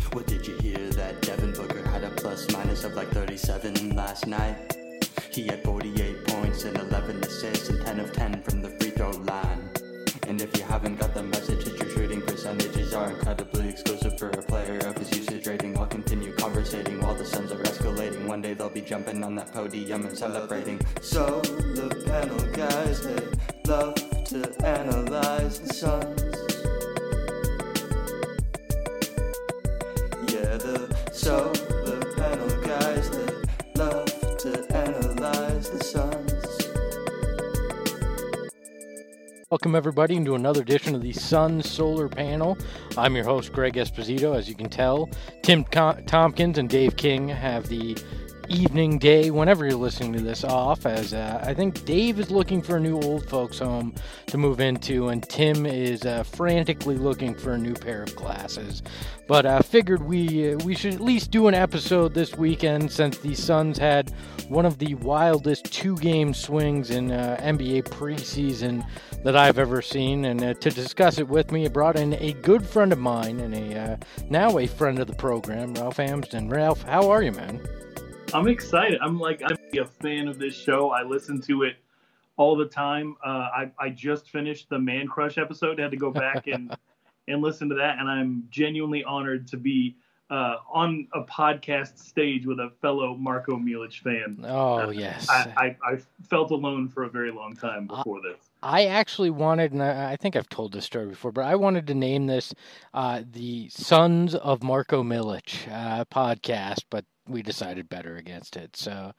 Well, did you hear that Devin Booker had a plus minus of like 37 last night? He had 48 points and 11 assists and 10 of 10 from the free throw line. And if you haven't got the message, his true shooting percentages are incredibly exclusive for a player of his usage rating. I'll continue conversating while the Suns are escalating. One day they'll be jumping on that podium and celebrating. So the panel guys, they love to analyze the Suns. Yeah, the panel guys, they love to analyze the Suns. Welcome, everybody, into another edition of the Suns Solar Panel. I'm your host, Greg Esposito. As you can tell, Tim Tompkins and Dave King have the evening, day, whenever you're listening to this, off, as I think Dave is looking for a new old folks home to move into, and Tim is frantically looking for a new pair of glasses. But I figured we should at least do an episode this weekend, since the Suns had one of the wildest two-game swings in NBA preseason that I've ever seen. And to discuss it with me, I brought in a good friend of mine and now a friend of the program, Ralph Amsden. Ralph, how are you, man? I'm excited. I'm a fan of this show. I listen to it all the time. I just finished the Man Crush episode. I had to go back and listen to that, and I'm genuinely honored to be on a podcast stage with a fellow Marko Milic fan. Oh, yes. I felt alone for a very long time before this. I actually wanted, and I think I've told this story before, but I wanted to name this the Sons of Marko Milic podcast, but we decided better against it. So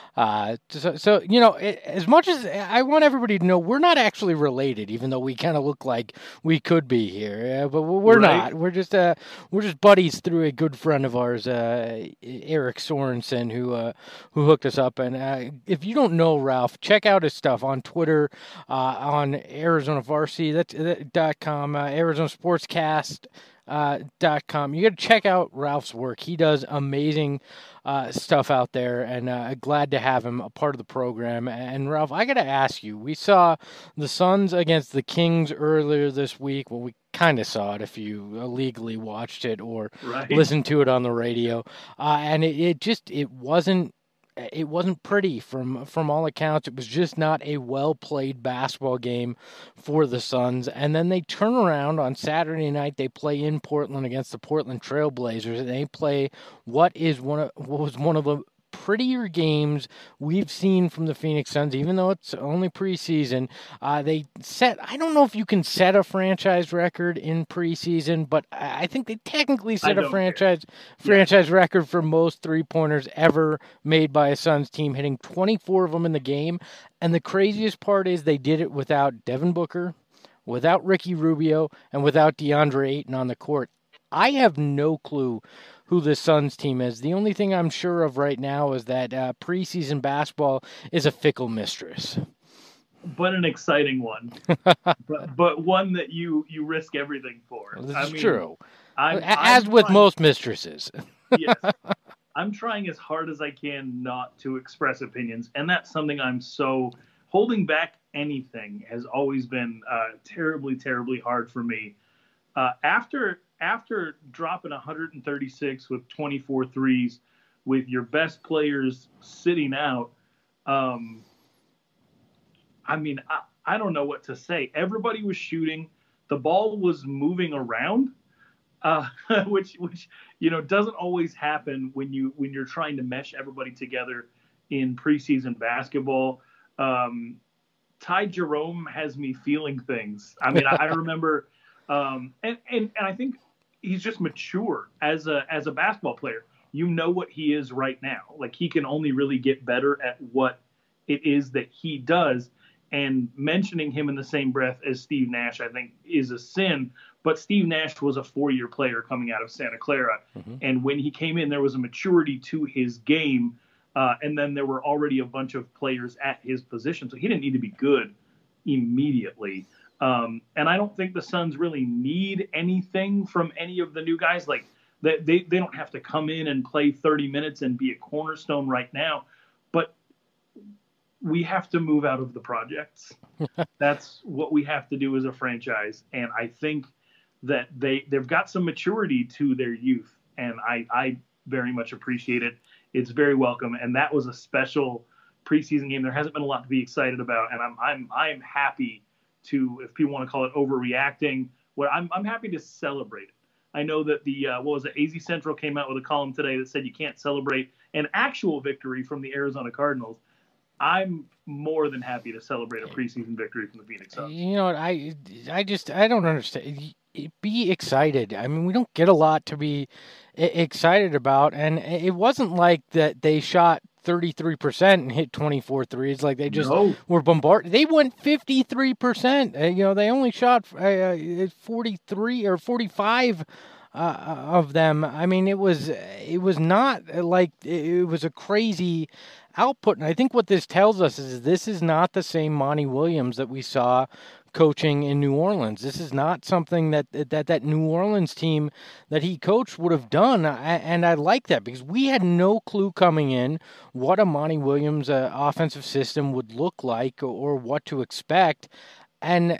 you know, as much as I want everybody to know, we're not actually related, even though we kind of look like we could be here. But we're not. We're just buddies through a good friend of ours, Eric Sorensen, who hooked us up. And if you don't know Ralph, check out his stuff on Twitter, on Arizona Varsity. That's .com, Arizona Sportscast. .com. You got to check out Ralph's work. He does amazing stuff out there, and glad to have him a part of the program. And Ralph, I got to ask you, we saw the Suns against the Kings earlier this week. Well, we kind of saw it if you illegally watched it or listened to it on the radio, and it wasn't pretty from all accounts. It was just not a well-played basketball game for the Suns. And then they turn around on Saturday night. They play in Portland against the Portland Trail Blazers, and they play what was one of the prettier games we've seen from the Phoenix Suns, even though it's only preseason. I don't know if you can set a franchise record in preseason, but I think they technically set a franchise record for most three-pointers ever made by a Suns team, hitting 24 of them in the game. And the craziest part is they did it without Devin Booker, without Ricky Rubio, and without DeAndre Ayton on the court. I have no clue who the Suns team is. The only thing I'm sure of right now is that preseason basketball is a fickle mistress. But an exciting one. but one that you risk everything for. This is true. As with most mistresses. Yes. I'm trying as hard as I can not to express opinions, and that's something holding back anything has always been terribly, terribly hard for me. After dropping 136 with 24 threes with your best players sitting out, I don't know what to say. Everybody was shooting. The ball was moving around, which doesn't always happen when you're trying to mesh everybody together in preseason basketball. Ty Jerome has me feeling things. I remember, and I think he's just mature as a basketball player. You know what he is right now. Like, he can only really get better at what it is that he does. And mentioning him in the same breath as Steve Nash, I think, is a sin. But Steve Nash was a 4-year player coming out of Santa Clara. Mm-hmm. And when he came in, there was a maturity to his game. And then there were already a bunch of players at his position. So he didn't need to be good immediately. And I don't think the Suns really need anything from any of the new guys. Like, they don't have to come in and play 30 minutes and be a cornerstone right now. But we have to move out of the projects. That's what we have to do as a franchise. And I think that they've got some maturity to their youth. and I very much appreciate it. It's very welcome, and that was a special preseason game. There hasn't been a lot to be excited about, and I'm happy to, if people want to call it overreacting, I'm happy to celebrate it. I know that the AZ Central came out with a column today that said you can't celebrate an actual victory from the Arizona Cardinals. I'm more than happy to celebrate a preseason victory from the Phoenix Suns. You know what? I don't understand. Be excited. I mean, we don't get a lot to be excited about, and it wasn't like that they shot 33% and hit 24 threes. Like they just were bombarded. They went 53%. They only shot 43 or 45 of them. I mean, it was not like it was a crazy output. And I think what this tells us is this is not the same Monty Williams that we saw coaching in New Orleans. This is not something that New Orleans team that he coached would have done, and I like that because we had no clue coming in what a Monty Williams offensive system would look like or what to expect, and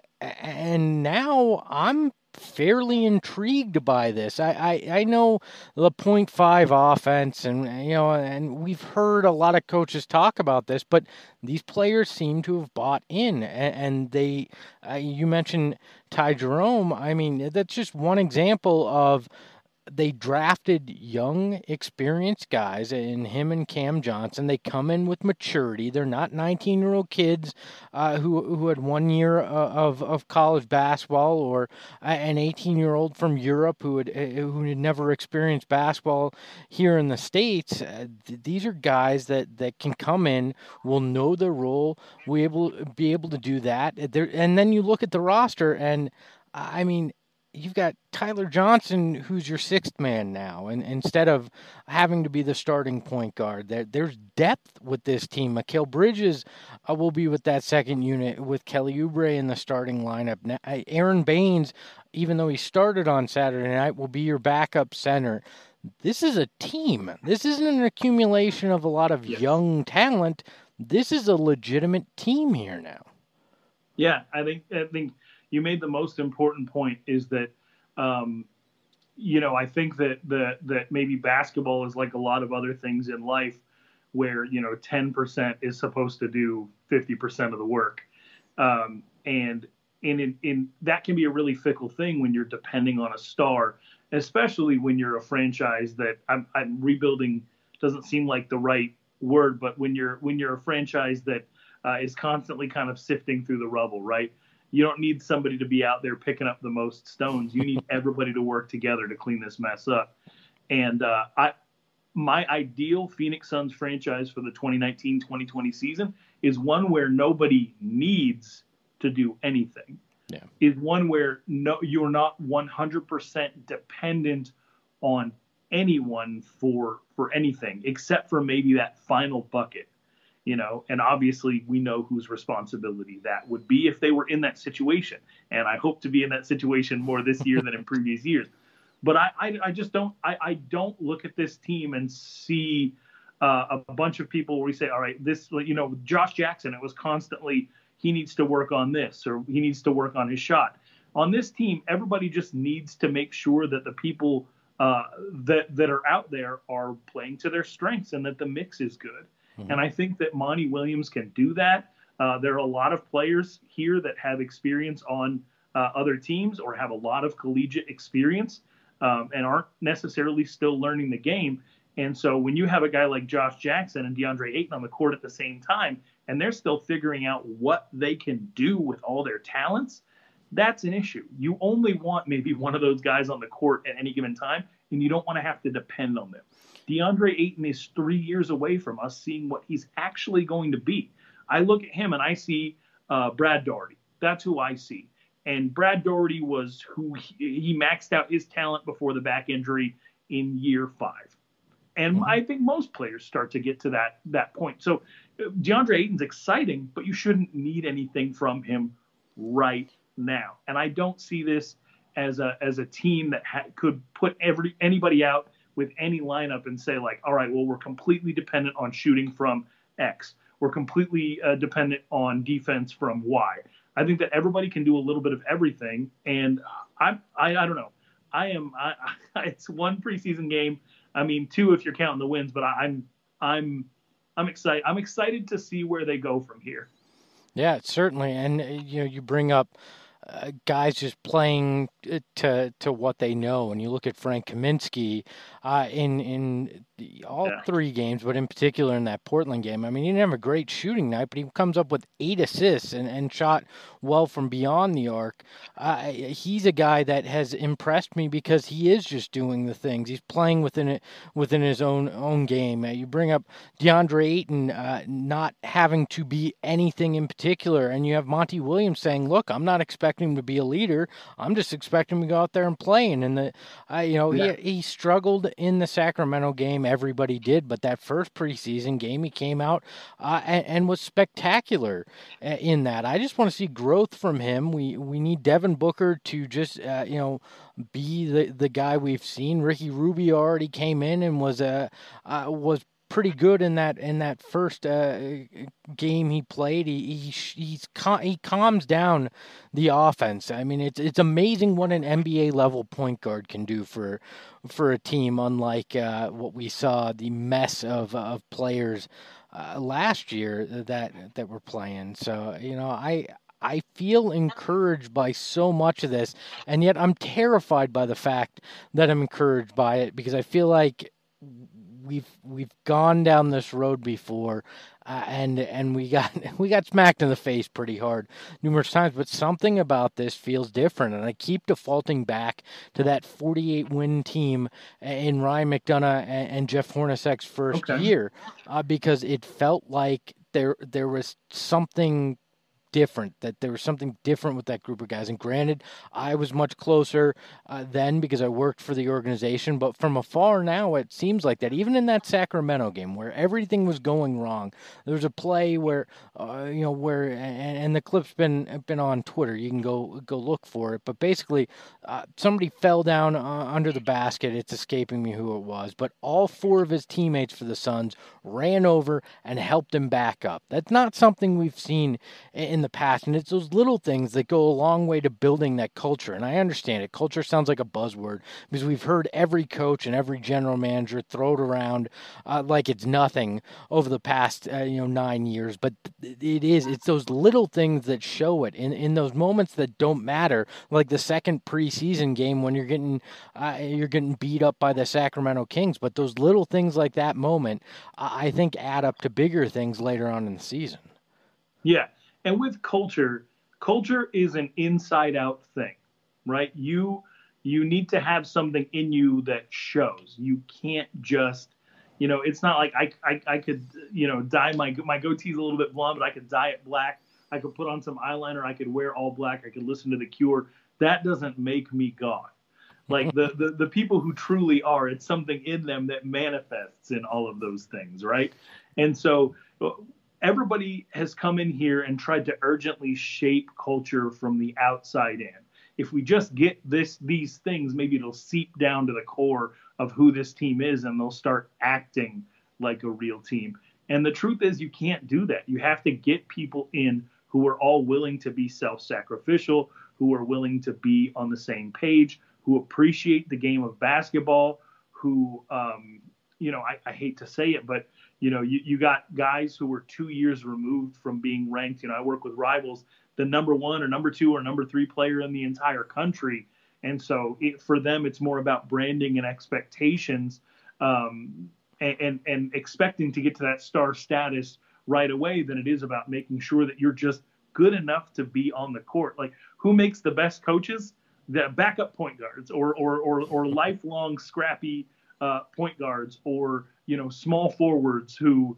now I'm fairly intrigued by this. I know the 0.5 offense, and we've heard a lot of coaches talk about this, but these players seem to have bought in, and they. You mentioned Ty Jerome. I mean, that's just one example of. They drafted young, experienced guys in him and Cam Johnson. They come in with maturity. They're not 19-year-old kids who had 1 year of college basketball, or an 18-year-old from Europe who had never experienced basketball here in the States. These are guys that can come in, will know their role, will be able to do that. And then you look at the roster, and I mean, you've got Tyler Johnson, who's your sixth man now, and instead of having to be the starting point guard, there's depth with this team. Mikal Bridges will be with that second unit with Kelly Oubre in the starting lineup. Now, Aaron Baines, even though he started on Saturday night, will be your backup center. This is a team. This isn't an accumulation of a lot of young talent. This is a legitimate team here now. Yeah, I think you made the most important point is that, I think that maybe basketball is like a lot of other things in life where, 10% is supposed to do 50% of the work. And in that can be a really fickle thing when you're depending on a star, especially when you're a franchise that I'm rebuilding doesn't seem like the right word, but when you're a franchise that is constantly kind of sifting through the rubble, right? You don't need somebody to be out there picking up the most stones. You need everybody to work together to clean this mess up. And my ideal Phoenix Suns franchise for the 2019-2020 season is one where nobody needs to do anything. Yeah. Is one where you're not 100% dependent on anyone for anything except for maybe that final bucket. And obviously we know whose responsibility that would be if they were in that situation. And I hope to be in that situation more this year than in previous years. But I just don't look at this team and see a bunch of people where we say, all right, this, Josh Jackson, it was constantly, he needs to work on this, or he needs to work on his shot. On this team, everybody just needs to make sure that the people that are out there are playing to their strengths and that the mix is good. And I think that Monty Williams can do that. There are a lot of players here that have experience on other teams or have a lot of collegiate experience and aren't necessarily still learning the game. And so when you have a guy like Josh Jackson and DeAndre Ayton on the court at the same time, and they're still figuring out what they can do with all their talents, that's an issue. You only want maybe one of those guys on the court at any given time, and you don't want to have to depend on them. DeAndre Ayton is 3 years away from us seeing what he's actually going to be. I look at him and I see Brad Daugherty. That's who I see. And Brad Daugherty was who he maxed out his talent before the back injury in year 5. And I think most players start to get to that point. So DeAndre Ayton's exciting, but you shouldn't need anything from him right now. And I don't see this as a team that could put anybody out with any lineup and say, like, all right, well, we're completely dependent on shooting from X. We're completely dependent on defense from Y. I think that everybody can do a little bit of everything. And I don't know. it's one preseason game. I mean, two if you're counting the wins, but I'm excited. I'm excited to see where they go from here. Yeah, certainly. And you bring up guys just playing to what they know. And you look at Frank Kaminsky in all three games, but in particular in that Portland game. I mean, he didn't have a great shooting night, but he comes up with 8 assists and shot well from beyond the arc. He's a guy that has impressed me because he is just doing the things. He's playing within his own game. You bring up DeAndre Ayton not having to be anything in particular, and you have Monty Williams saying, "Look, I'm not expecting him to be a leader. I'm just expecting him to go out there and play." And he struggled in the Sacramento game. Everybody did, but that first preseason game, he came out and was spectacular in that. I just want to see growth from him. We need Devin Booker to just be the guy we've seen. Ricky Rubio already came in and was pretty good in that first game he played. He calms down the offense. I mean, it's amazing what an NBA level point guard can do for a team, unlike what we saw, the mess of players last year that were playing. So I feel encouraged by so much of this, and yet I'm terrified by the fact that I'm encouraged by it, because I feel like we've gone down this road before, and we got smacked in the face pretty hard numerous times. But something about this feels different, and I keep defaulting back to that 48-win team in Ryan McDonough and Jeff Hornacek's first year, because it felt like there was something different, that there was something different with that group of guys. And granted, I was much closer then because I worked for the organization, but from afar now, it seems like that. Even in that Sacramento game where everything was going wrong, there was a play where, and the clip's been on Twitter. You can go look for it. But basically, somebody fell down under the basket. It's escaping me who it was, but all 4 of his teammates for the Suns ran over and helped him back up. That's not something we've seen in the past, and it's those little things that go a long way to building that culture. And I understand it. Culture sounds like a buzzword because we've heard every coach and every general manager throw it around like it's nothing over the past 9 years. But it's those little things that show it in those moments that don't matter, like the second preseason game when you're getting beat up by the Sacramento Kings. But those little things like that moment, I think, add up to bigger things later on in the season. Yeah. And with culture is an inside-out thing, right? You need to have something in you that shows. You can't just, it's not like I could, dye my goatee's a little bit blonde, but I could dye it black. I could put on some eyeliner. I could wear all black. I could listen to The Cure. That doesn't make me God. Like the people who truly are, it's something in them that manifests in all of those things, right? And so everybody has come in here and tried to urgently shape culture from the outside in. If we just get these things, maybe it'll seep down to the core of who this team is, and they'll start acting like a real team. And the truth is, you can't do that. You have to get people in who are all willing to be self-sacrificial, who are willing to be on the same page, who appreciate the game of basketball, who, I hate to say it, but you got guys who were 2 years removed from being ranked. I work with Rivals, the number 1 or number 2 or number 3 player in the entire country. And so for them, it's more about branding and expectations and expecting to get to that star status right away than it is about making sure that you're just good enough to be on the court. Like, who makes the best coaches? The backup point guards or lifelong scrappy point guards, or small forwards who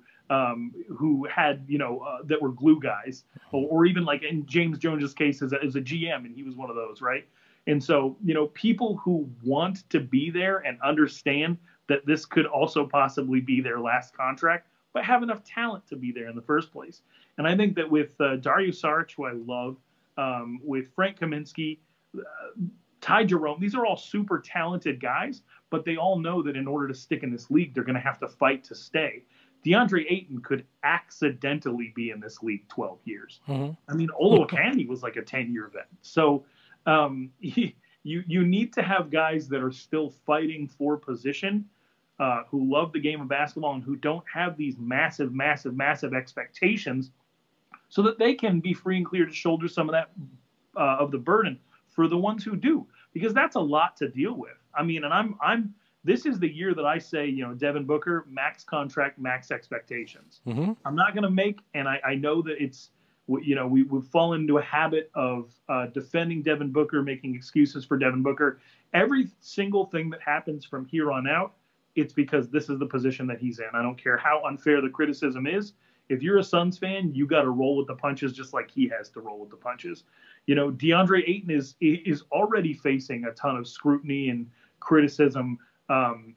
had that were glue guys, or even like in James Jones's case as a GM, and he was one of those, right? And so people who want to be there and understand that this could also possibly be their last contract, but have enough talent to be there in the first place. And I think that with Dario Saric, who I love, with Frank Kaminsky, Ty Jerome, these are all super talented guys, but they all know that in order to stick in this league, they're going to have to fight to stay. DeAndre Ayton could accidentally be in this league 12 years. Mm-hmm. I mean, Olo Akandi was like a 10-year vet. So, you need to have guys that are still fighting for position, who love the game of basketball and who don't have these massive, massive, massive expectations, so that they can be free and clear to shoulder some of that of the burden for the ones who do, because that's a lot to deal with. I mean, and I'm this is the year that I say, Devin Booker, max contract, max expectations. Mm-hmm. I'm not going to make, and I know that it's, we've fallen into a habit of defending Devin Booker, making excuses for Devin Booker. Every single thing that happens from here on out, it's because this is the position that he's in. I don't care how unfair the criticism is. If you're a Suns fan, you got to roll with the punches, just like he has to roll with the punches. DeAndre Ayton is already facing a ton of scrutiny and criticism, and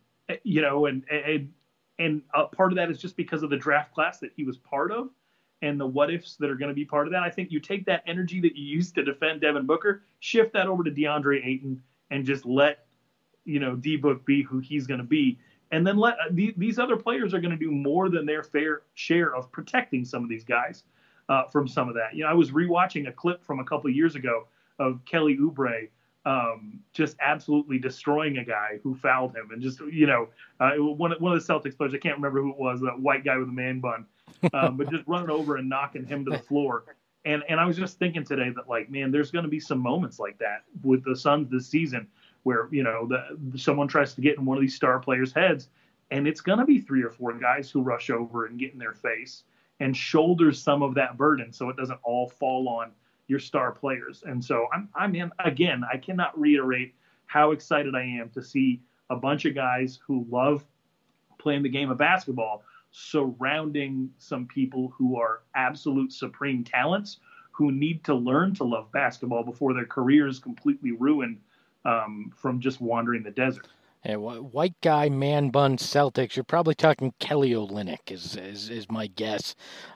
part of that is just because of the draft class that he was part of and the what ifs that are going to be part of that. I think you take that energy that you used to defend Devin Booker, shift that over to DeAndre Ayton, and just let D-Book be who he's going to be. And then let these other players are going to do more than their fair share of protecting some of these guys from some of that. I was rewatching a clip from a couple of years ago of Kelly Oubre just absolutely destroying a guy who fouled him, and just one of the Celtics players, I can't remember who it was, that white guy with a man bun, but just running over and knocking him to the floor. And I was just thinking today that, like, man, there's going to be some moments like that with the Suns this season, where someone tries to get in one of these star players' heads, and it's going to be 3 or 4 guys who rush over and get in their face and shoulder some of that burden, so it doesn't all fall on your star players. And so again, I cannot reiterate how excited I am to see a bunch of guys who love playing the game of basketball surrounding some people who are absolute supreme talents, who need to learn to love basketball before their career is completely ruined from just wandering the desert. Yeah, white guy, man bun Celtics. You're probably talking Kelly Olynyk is my guess.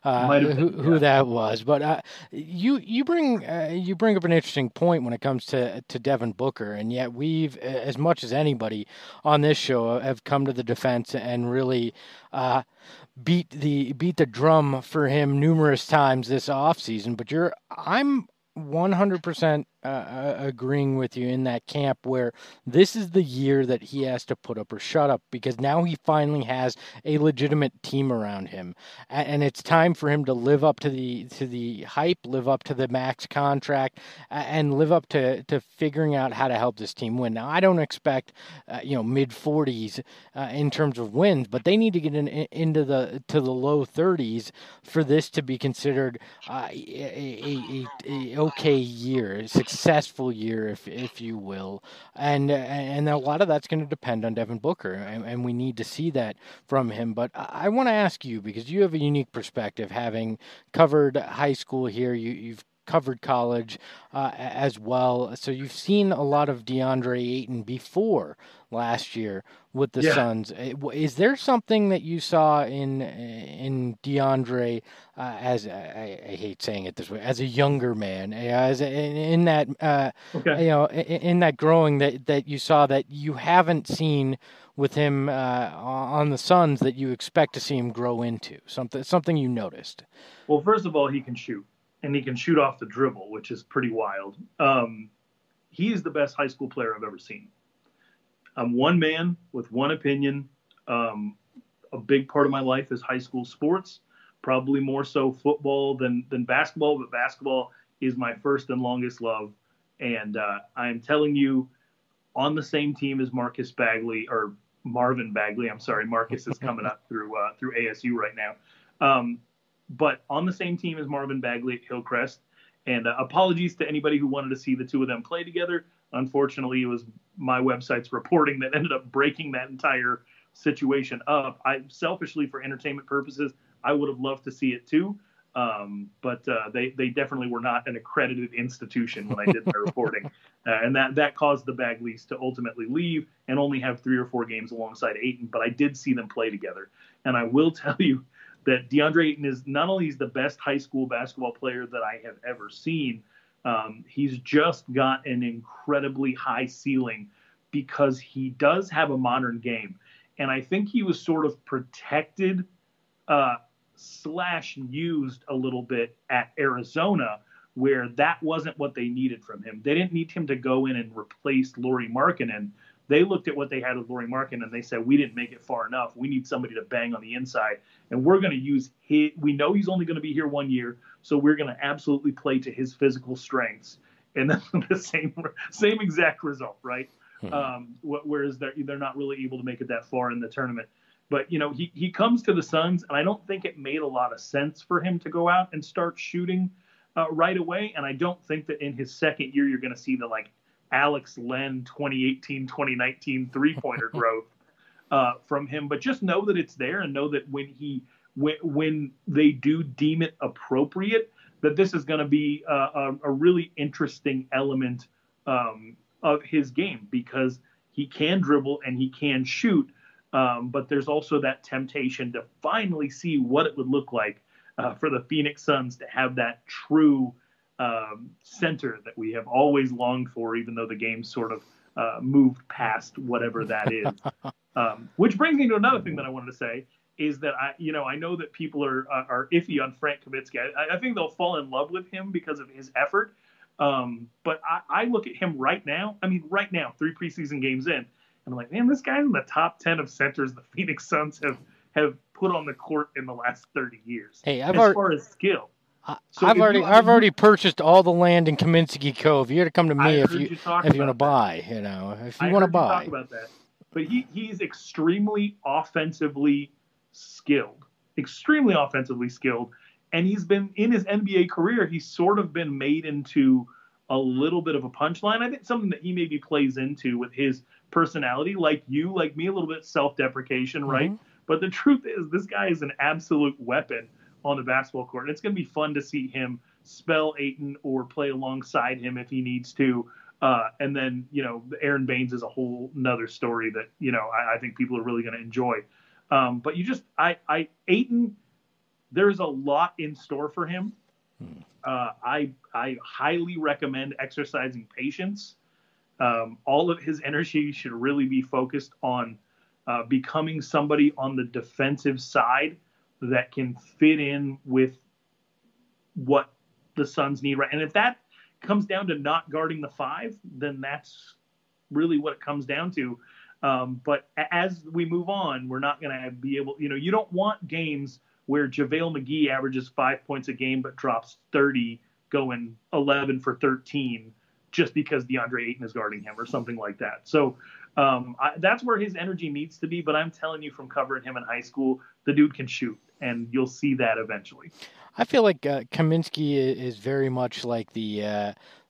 Who that was, but you bring up an interesting point when it comes to Devin Booker, and yet we've, as much as anybody on this show, have come to the defense and really beat the drum for him numerous times this offseason. But I'm 100% agreeing with you in that camp, where this is the year that he has to put up or shut up, because now he finally has a legitimate team around him, and it's time for him to live up to the hype, live up to the max contract, and live up to figuring out how to help this team win. Now, I don't expect mid 40s in terms of wins, but they need to get into the low 30s for this to be considered a okay year, a successful year, if you will, and a lot of that's going to depend on Devin Booker, and we need to see that from him. But I want to ask you, because you have a unique perspective, having covered high school here, you've covered college as well, so you've seen a lot of DeAndre Ayton before last year with the Suns. Is there something that you saw in DeAndre as I hate saying it this way, as a younger man, in that growing that you saw that you haven't seen with him on the Suns, that you expect to see him grow into? Something you noticed? Well, first of all, he can shoot. And he can shoot off the dribble, which is pretty wild. He is the best high school player I've ever seen. I'm one man with one opinion. A big part of my life is high school sports, probably more so football than basketball, but basketball is my first and longest love. And I am telling you, on the same team as Marvin Bagley. I'm sorry, Marcus is coming up through ASU right now. But on the same team as Marvin Bagley at Hillcrest. And apologies to anybody who wanted to see the two of them play together. Unfortunately, it was my website's reporting that ended up breaking that entire situation up. Selfishly, for entertainment purposes, I would have loved to see it too. But they definitely were not an accredited institution when I did my reporting. And that caused the Bagleys to ultimately leave and only have 3 or 4 games alongside Ayton. But I did see them play together. And I will tell you that DeAndre Ayton is not only the best high school basketball player that I have ever seen, he's just got an incredibly high ceiling because he does have a modern game. And I think he was sort of protected / used a little bit at Arizona, where that wasn't what they needed from him. They didn't need him to go in and replace Lauri Markkanen. They looked at what they had with Lauri Markkanen and they said, we didn't make it far enough. We need somebody to bang on the inside. And we're going to use his, we know he's only going to be here 1 year, so we're going to absolutely play to his physical strengths. And then the same exact result, right? Whereas they're not really able to make it that far in the tournament. But, he comes to the Suns, and I don't think it made a lot of sense for him to go out and start shooting right away. And I don't think that in his second year you're going to see the, Alex Len 2018, 2019 three-pointer growth from him. But just know that it's there, and know that when they do deem it appropriate, that this is going to be a really interesting element of his game, because he can dribble and he can shoot. But there's also that temptation to finally see what it would look like for the Phoenix Suns to have that true center that we have always longed for, even though the game sort of moved past whatever that is. Which brings me to another thing that I wanted to say is that I know that people are iffy on Frank Kaminsky. I think they'll fall in love with him because of his effort. But I look at him right now. I mean, right now, 3 preseason games in, and I'm like, man, this guy's in the top 10 of centers the Phoenix Suns have put on the court in the last 30 years. Hey, as far as skill. So I've already purchased all the land in Kaminsky Cove. You got to come to me if you want to buy. If you want to buy. Talk about that. But he's extremely offensively skilled, and he's been in his NBA career. He's sort of been made into a little bit of a punchline. I think something that he maybe plays into with his personality, like you, like me, a little bit self-deprecation, right? Mm-hmm. But the truth is, this guy is an absolute weapon on the basketball court. And it's going to be fun to see him spell Ayton or play alongside him if he needs to. And then, Aaron Baines is a whole nother story that, I think people are really going to enjoy. But Ayton, there's a lot in store for him. I highly recommend exercising patience. All of his energy should really be focused on becoming somebody on the defensive side that can fit in with what the Suns need, right? And if that comes down to not guarding the 5, then that's really what it comes down to. But as we move on, we're not going to be able, you don't want games where JaVale McGee averages 5 points a game but drops 30, going 11 for 13 just because DeAndre Ayton is guarding him or something like that. So that's where his energy needs to be. But I'm telling you, from covering him in high school, the dude can shoot, and you'll see that eventually. I feel like Kaminsky is very much like the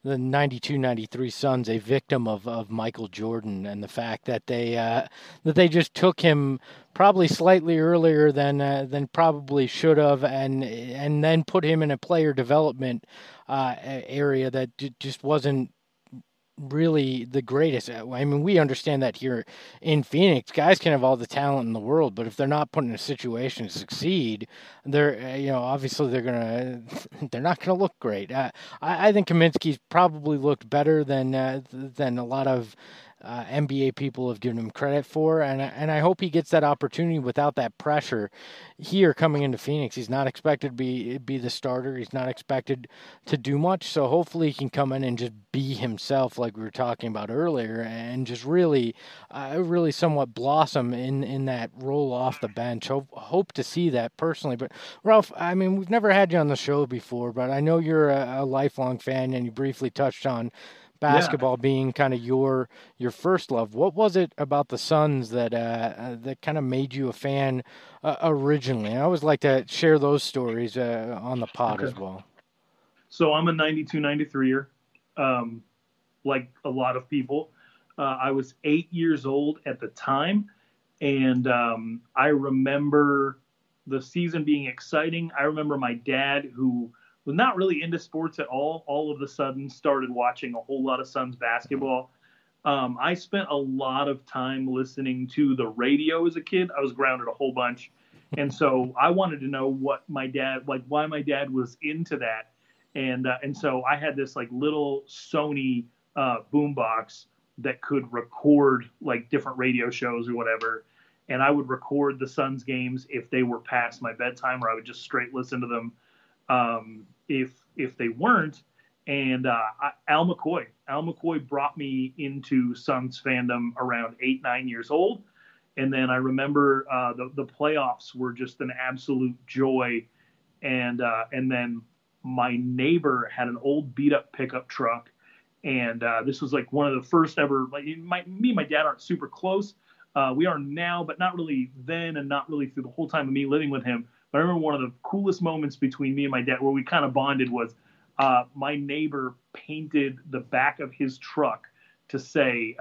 92-93 Suns, a victim of Michael Jordan, and the fact that they just took him probably slightly earlier than probably should have, and then put him in a player development area that just wasn't really the greatest. I mean, we understand that here in Phoenix, guys can have all the talent in the world, but if they're not put in a situation to succeed, they're obviously they're not gonna look great. I think Kaminsky's probably looked better than a lot of NBA people have given him credit for, and I hope he gets that opportunity without that pressure here coming into Phoenix. He's not expected to be the starter. He's not expected to do much, so hopefully he can come in and just be himself, like we were talking about earlier, and just really somewhat blossom in that role off the bench. Hope to see that personally. But Ralph, I mean, we've never had you on the show before, but I know you're a lifelong fan, and you briefly touched on basketball being kind of your first love. What was it about the Suns that kind of made you a fan originally? I always like to share those stories on the pod as well. So I'm a 92-93er, like a lot of people. I was 8 years old at the time, and I remember the season being exciting. I remember my dad, who was not really into sports at all of a sudden started watching a whole lot of Suns basketball. I spent a lot of time listening to the radio as a kid. I was grounded a whole bunch. And so I wanted to know why my dad was into that. And so I had this little Sony boombox that could record different radio shows or whatever. And I would record the Suns games if they were past my bedtime, or I would just straight listen to them. If they weren't, And Al McCoy brought me into Suns fandom around 8, 9 years old. And then I remember the playoffs were just an absolute joy. And then my neighbor had an old beat up pickup truck. And this was like one of the first ever, like me and my dad aren't super close. We are now, but not really then and not really through the whole time of me living with him. But I remember one of the coolest moments between me and my dad where we kind of bonded was my neighbor painted the back of his truck to say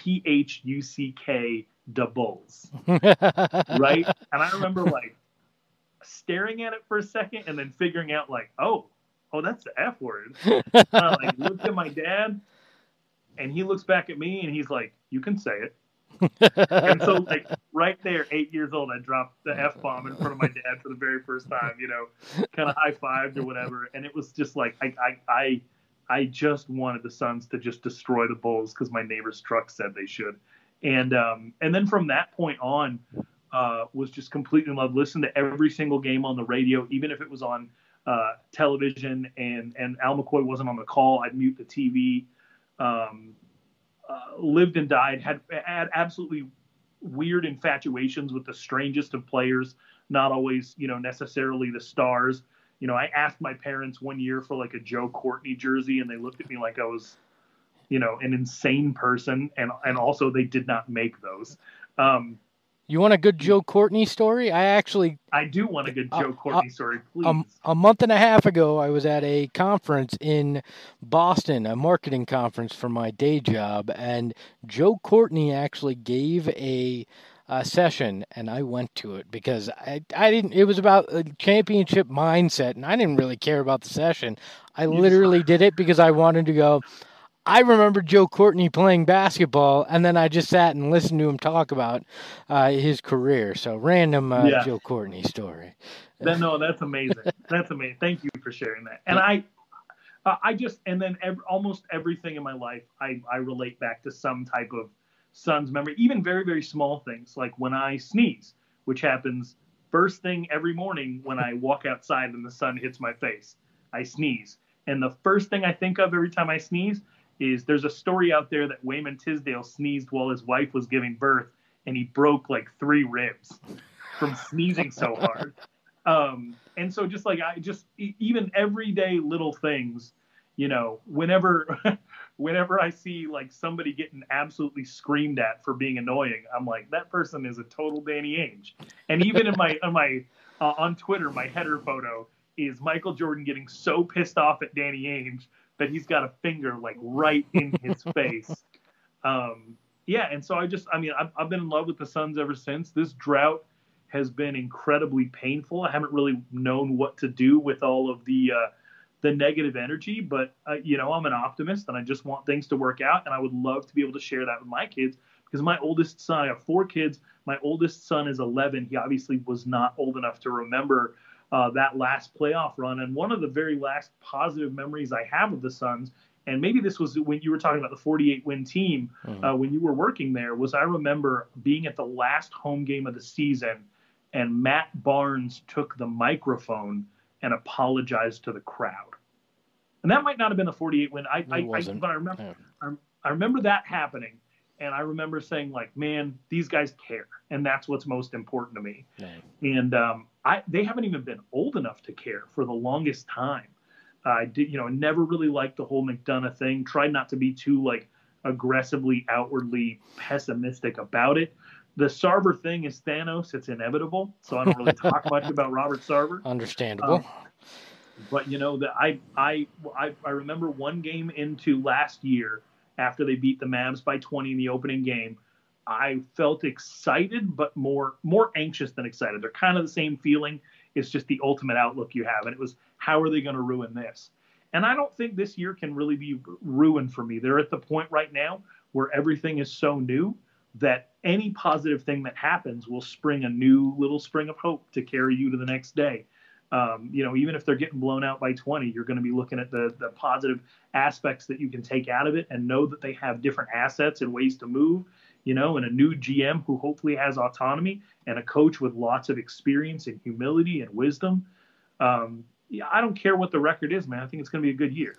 PHUCK da Bulls. Right? And I remember like staring at it for a second and then figuring out like, oh, that's the F word. And I like looked at my dad and he looks back at me and he's like, you can say it. And so like right there, 8 years old, I dropped the F-bomb in front of my dad for the very first time, kind of high-fived or whatever. And it was just like, I just wanted the Suns to just destroy the Bulls because my neighbor's truck said they should. And then from that point on, was just completely in love. Listened to every single game on the radio, even if it was on television and Al McCoy wasn't on the call, I'd mute the TV. Lived and died, had absolutely weird infatuations with the strangest of players, not always, necessarily the stars. I asked my parents one year for like a Joe Courtney jersey and they looked at me like I was, an insane person. And also they did not make those. You want a good Joe Courtney story? I do want a good Joe Courtney story, please. A month and a half ago, I was at a conference in Boston, a marketing conference for my day job, and Joe Courtney actually gave a session, and I went to it because I didn't. It was about a championship mindset, and I didn't really care about the session. I literally did it because I wanted to go. I remember Joe Courtney playing basketball, and then I just sat and listened to him talk about his career. So, random Joe Courtney story. No, that's amazing. That's amazing. Thank you for sharing that. And almost everything in my life, I relate back to some type of Suns memory, even very, very small things, like when I sneeze, which happens first thing every morning when I walk outside and the sun hits my face. I sneeze. And the first thing I think of every time I sneeze is there's a story out there that Wayman Tisdale sneezed while his wife was giving birth, and he broke like 3 ribs from sneezing so hard. And so just like even everyday little things, whenever I see like somebody getting absolutely screamed at for being annoying, I'm like, that person is a total Danny Ainge. And even in my on Twitter, my header photo is Michael Jordan getting so pissed off at Danny Ainge that he's got a finger like right in his face. And so I've been in love with the Suns ever since. This drought has been incredibly painful. I haven't really known what to do with all of the negative energy, but I'm an optimist and I just want things to work out, and I would love to be able to share that with my kids because my oldest son, I have 4 kids. My oldest son is 11. He obviously was not old enough to remember that last playoff run. And one of the very last positive memories I have of the Suns, and maybe this was when you were talking about the 48-win team, when you were working there, was I remember being at the last home game of the season, and Matt Barnes took the microphone and apologized to the crowd. And that might not have been the 48-win. But I remember that happening. And I remember saying, like, man, these guys care. And that's what's most important to me. Right. And they haven't even been old enough to care for the longest time. I never really liked the whole McDonough thing. Tried not to be too, like, aggressively, outwardly pessimistic about it. The Sarver thing is Thanos. It's inevitable. So I don't really talk much about Robert Sarver. Understandable. But, I remember one game into last year, after they beat the Mavs by 20 in the opening game, I felt excited, but more anxious than excited. They're kind of the same feeling. It's just the ultimate outlook you have. And it was, how are they going to ruin this? And I don't think this year can really be ruined for me. They're at the point right now where everything is so new that any positive thing that happens will spring a new little spring of hope to carry you to the next day. Even if they're getting blown out by 20, you're going to be looking at the positive aspects that you can take out of it and know that they have different assets and ways to move, and a new GM who hopefully has autonomy and a coach with lots of experience and humility and wisdom. I don't care what the record is, man. I think it's going to be a good year.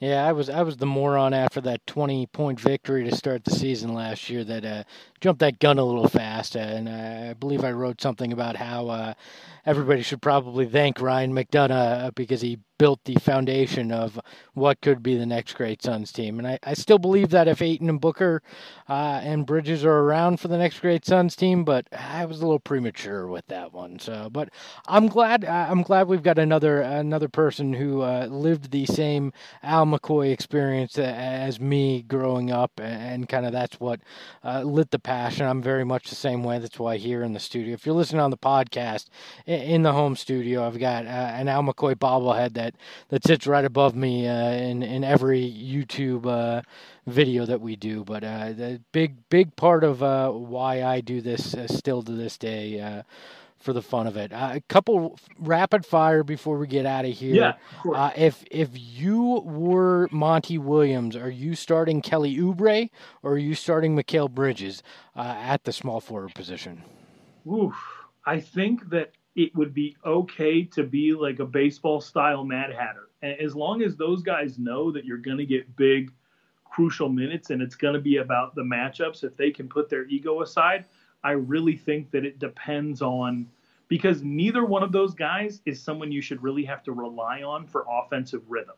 Yeah, I was the moron after that 20-point victory to start the season last year that jumped that gun a little fast, and I believe I wrote something about how everybody should probably thank Ryan McDonough because he built the foundation of what could be the next great Suns team. And I still believe that if Ayton and Booker and Bridges are around for the next great Suns team, but I was a little premature with that one. So, but I'm glad we've got another person who lived the same Al McCoy experience as me growing up, and kind of that's what lit the passion. I'm very much the same way. That's why here in the studio, if you're listening on the podcast, in the home studio, I've got an Al McCoy bobblehead that sits right above me in every YouTube video that we do. But the big part of why I do this still to this day. For the fun of it, a couple rapid fire before we get out of here. Yeah, of course. If you were Monty Williams, are you starting Kelly Oubre or are you starting Mikal Bridges at the small forward position? Oof. I think that it would be okay to be like a baseball style Mad Hatter, as long as those guys know that you're going to get big, crucial minutes, and it's going to be about the matchups. If they can put their ego aside, I really think that it depends on, because neither one of those guys is someone you should really have to rely on for offensive rhythm.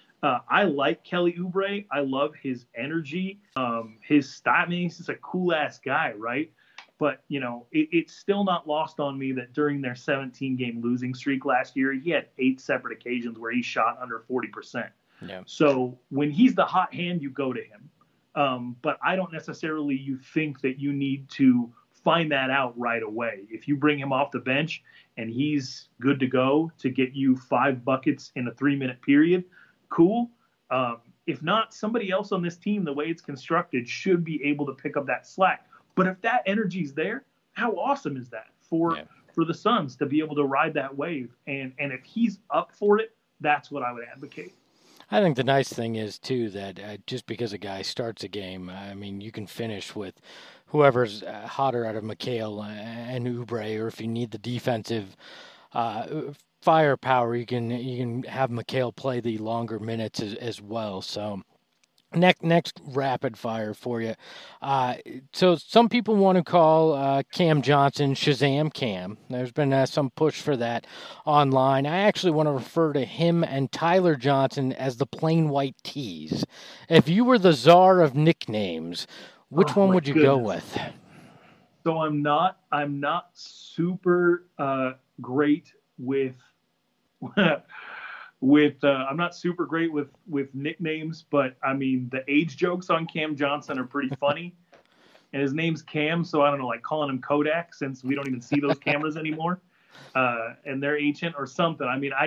I like Kelly Oubre. I love his energy, his style. I mean, he's just a cool ass guy, right? But, it's still not lost on me that during their 17-game losing streak last year, he had 8 separate occasions where he shot under 40%. Yeah. So when he's the hot hand, you go to him. But I don't necessarily think that you need to find that out right away. If you bring him off the bench and he's good to go to get you 5 buckets in a 3-minute period, cool. If not, somebody else on this team, the way it's constructed, should be able to pick up that slack. But if that energy's there, how awesome is that for the Suns to be able to ride that wave? And if he's up for it, that's what I would advocate. I think the nice thing is, too, that just because a guy starts a game, I mean, you can finish with whoever's hotter out of Mikal and Oubre, or if you need the defensive firepower, you can have Mikal play the longer minutes as well. So next rapid fire for you. So some people want to call Cam Johnson Shazam Cam. There's been some push for that online. I actually want to refer to him and Tyler Johnson as the plain white tees. If you were the czar of nicknames, which one would you go with? So I'm not super great with I'm not super great with nicknames, but I mean the age jokes on Cam Johnson are pretty funny. And his name's Cam, so I don't know, like calling him Kodak since we don't even see those cameras anymore, and they're ancient or something. I mean,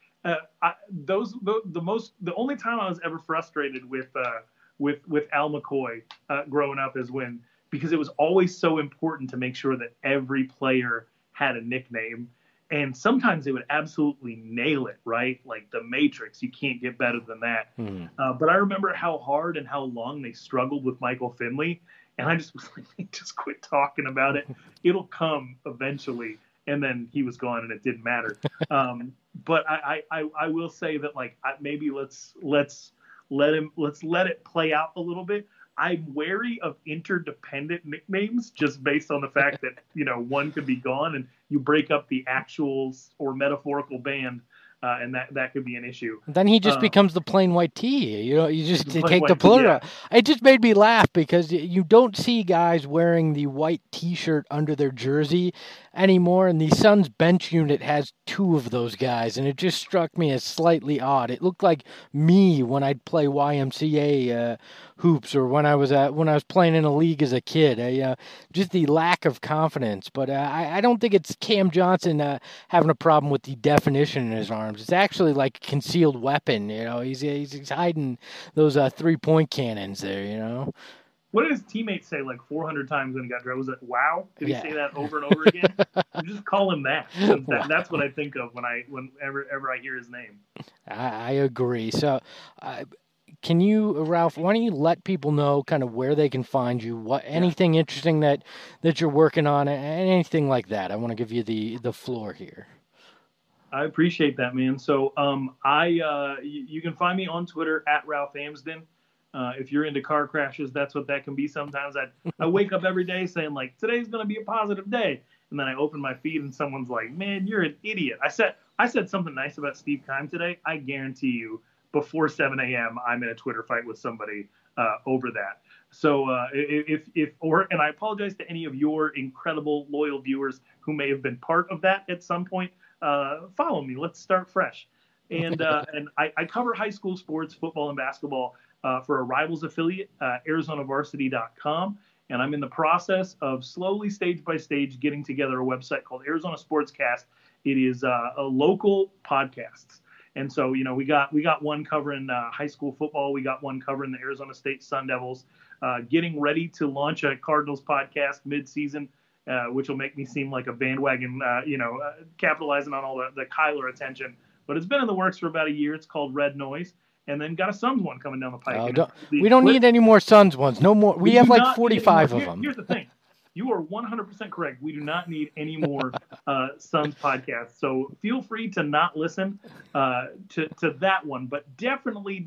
the only time I was ever frustrated with Al McCoy growing up is because it was always so important to make sure that every player had a nickname. And sometimes they would absolutely nail it, right? Like the Matrix, you can't get better than that. But I remember how hard and how long they struggled with Michael Finley. And I just was like, just quit talking about it. It'll come eventually. And then he was gone and it didn't matter. But I will say that maybe let's let it play out a little bit. I'm wary of interdependent nicknames just based on the fact that, one could be gone and you break up the actual or metaphorical band, and that could be an issue. Then he just becomes the plain white tee. You just take the plural. Yeah. It just made me laugh because you don't see guys wearing the white T-shirt under their jersey anymore, and the Suns bench unit has 2 of those guys, and it just struck me as slightly odd. It looked like me when I'd play YMCA hoops, or when I was playing in a league as a kid. Just the lack of confidence. But I don't think it's Cam Johnson having a problem with the definition in his arms. It's actually like a concealed weapon. He's hiding those 3-point cannons there. What did his teammates say like 400 times when he got drafted? Was it wow? Did he say that over and over again? Just call him that. That's what I think of whenever I hear his name. I agree. So, can you, Ralph, why don't you let people know kind of where they can find you, anything interesting that you're working on, and anything like that? I want to give you the floor here. I appreciate that, man. So you can find me on Twitter at Ralph Amsden. If you're into car crashes, that's what that can be. Sometimes I wake up every day saying like today's going to be a positive day, and then I open my feed and someone's like, "Man, you're an idiot." I said something nice about Steve Keim today. I guarantee you, before 7 a.m., I'm in a Twitter fight with somebody over that. So and I apologize to any of your incredible loyal viewers who may have been part of that at some point. Follow me. Let's start fresh. And I cover high school sports, football and basketball for a Rivals affiliate, ArizonaVarsity.com. And I'm in the process of slowly, stage by stage, getting together a website called Arizona Sportscast. It is a local podcasts. And so, we got one covering high school football. We got one covering the Arizona State Sun Devils. Getting ready to launch a Cardinals podcast mid-season, which will make me seem like a bandwagon, capitalizing on all the Kyler attention. But it's been in the works for about a year. It's called Red Noise. And then got a Suns one coming down the pike. We don't need any more Suns ones. No more. We have like 45 of them. Here's the thing. You are 100% correct. We do not need any more Suns podcasts. So feel free to not listen to that one. But definitely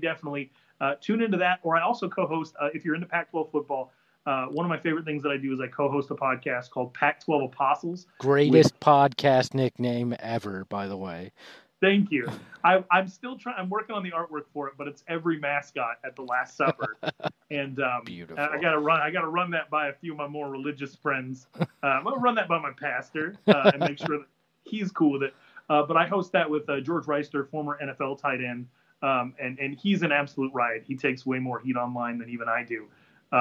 tune into that. Or I also co-host, if you're into Pac-12 football, one of my favorite things that I do is I co-host a podcast called Pac-12 Apostles. Greatest podcast nickname ever, by the way. Thank you. I'm still trying. I'm working on the artwork for it, but it's every mascot at the Last Supper, and beautiful. I gotta run that by a few of my more religious friends. I'm gonna run that by my pastor and make sure that he's cool with it. But I host that with George Reister, former NFL tight end, and he's an absolute riot. He takes way more heat online than even I do.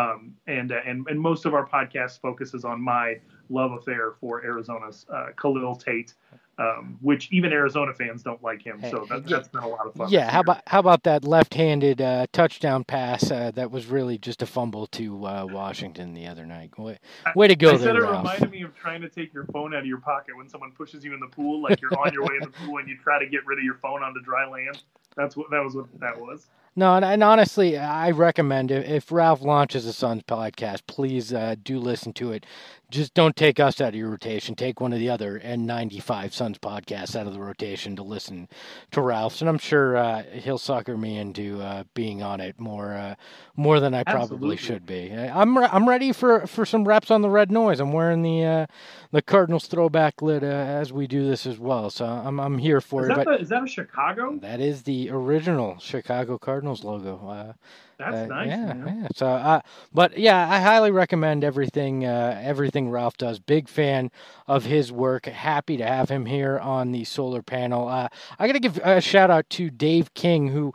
And most of our podcast focuses on my love affair for Arizona's Khalil Tate. Which even Arizona fans don't like him, so that's been a lot of fun. Yeah, how about that left-handed touchdown pass that was really just a fumble to Washington the other night? Way to go! I said it reminded me of trying to take your phone out of your pocket when someone pushes you in the pool, like you're on your way in the pool and you try to get rid of your phone onto dry land. That was what that was. No, and honestly, I recommend if Ralph launches a Suns podcast, please do listen to it. Just don't take us out of your rotation. Take one of the other N95 Suns podcasts out of the rotation to listen to Ralph's, and I'm sure he'll sucker me into being on it more than I probably should be. I'm ready for some reps on the Red Noise. I'm wearing the Cardinals throwback lid as we do this as well, so I'm here for it. Is that a Chicago? That is the original Chicago Cardinals logo. That's nice. Yeah. So, but yeah, I highly recommend everything Ralph does. Big fan of his work. Happy to have him here on the solar panel. I got to give a shout out to Dave King,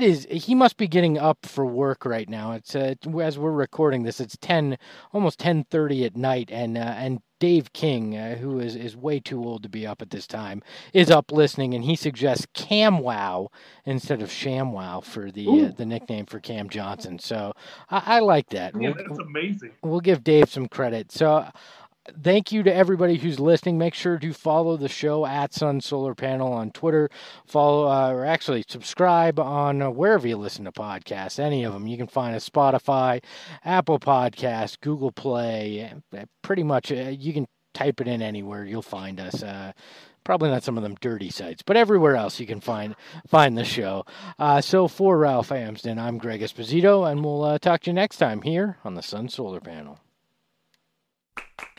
he must be getting up for work right now. It's as we're recording this, it's almost 10:30 at night, and Dave King, who is way too old to be up at this time, is up listening, and he suggests CamWow instead of ShamWow for the nickname for Cam Johnson. So I like that. Yeah, that's amazing. We'll give Dave some credit. So thank you to everybody who's listening. Make sure to follow the show at Sun Solar Panel on Twitter. Follow or actually subscribe on wherever you listen to podcasts, any of them. You can find us Spotify, Apple Podcasts, Google Play. Pretty much you can type it in anywhere. You'll find us. Probably not some of them dirty sites, but everywhere else you can find the show. So for Ralph Amsden, I'm Greg Esposito, and we'll talk to you next time here on the Sun Solar Panel.